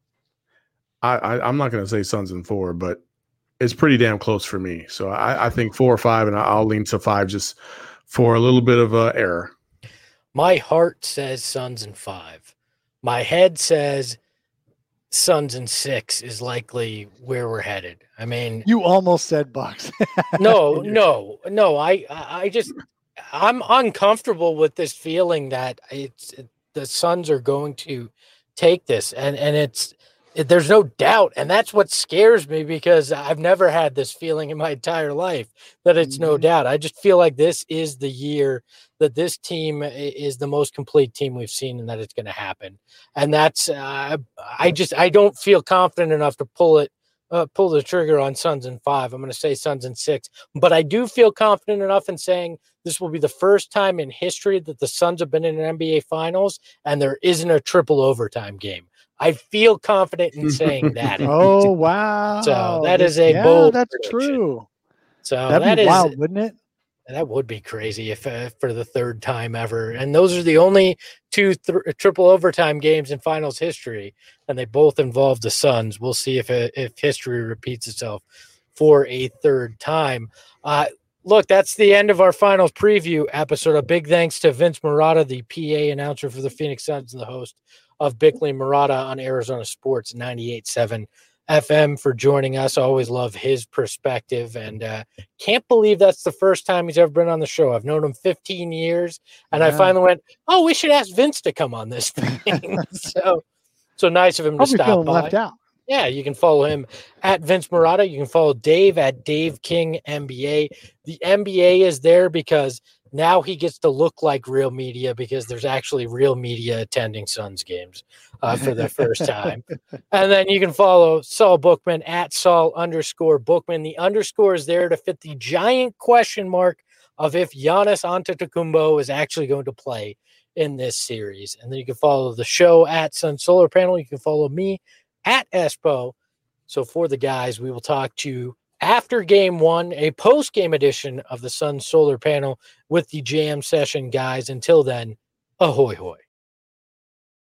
I I'm not going to say Suns in four, but it's pretty damn close for me. So I, I think four or five, and I'll lean to five just for a little bit of uh, error. My heart says Suns in five. My head says Suns in six is likely where we're headed. I mean, You almost said Bucks. no, no, no. I, I I just, I'm uncomfortable with this feeling that it's the Suns are going to take this, and and it's it, there's no doubt, and that's what scares me because I've never had this feeling in my entire life that it's no Mhm. doubt. I just feel like this is the year that this team i- is the most complete team we've seen, and that it's going to happen. And that's uh, I just I don't feel confident enough to pull it. Uh, pull the trigger on Suns in five. I'm going to say Suns in six, but I do feel confident enough in saying this will be the first time in history that the Suns have been in an N B A Finals and there isn't a triple overtime game. I feel confident in saying that. Oh wow! So that is a yeah, bold that's prediction. true. So That'd that be is wild, wouldn't it? that would be crazy if uh, for the third time ever. And those are the only two th- triple overtime games in finals history, and they both involve the Suns. We'll see if uh, if history repeats itself for a third time. Uh, look, that's the end of our finals preview episode. A big thanks to Vince Marotta, the P A announcer for the Phoenix Suns and the host of Bickley and Marotta on Arizona Sports ninety-eight point seven F M for joining us. I always love his perspective, and uh, can't believe that's the first time he's ever been on the show. I've known him fifteen years, and yeah. I finally went, oh, we should ask Vince to come on this thing. so, so nice of him to Probably stop feeling by. left out. Yeah, you can follow him at Vince Marotta. You can follow Dave at Dave King N B A. The N B A is there because now he gets to look like real media because there's actually real media attending Suns games uh, for the first time. And then you can follow Saul Bookman at Saul underscore Bookman. The underscore is there to fit the giant question mark of if Giannis Antetokounmpo is actually going to play in this series. And then you can follow the show at Sun Solar Panel. You can follow me at Espo. So for the guys, we will talk to you after game one, a post-game edition of the Sun Solar Panel with the Jam Session guys. Until then, ahoy hoy.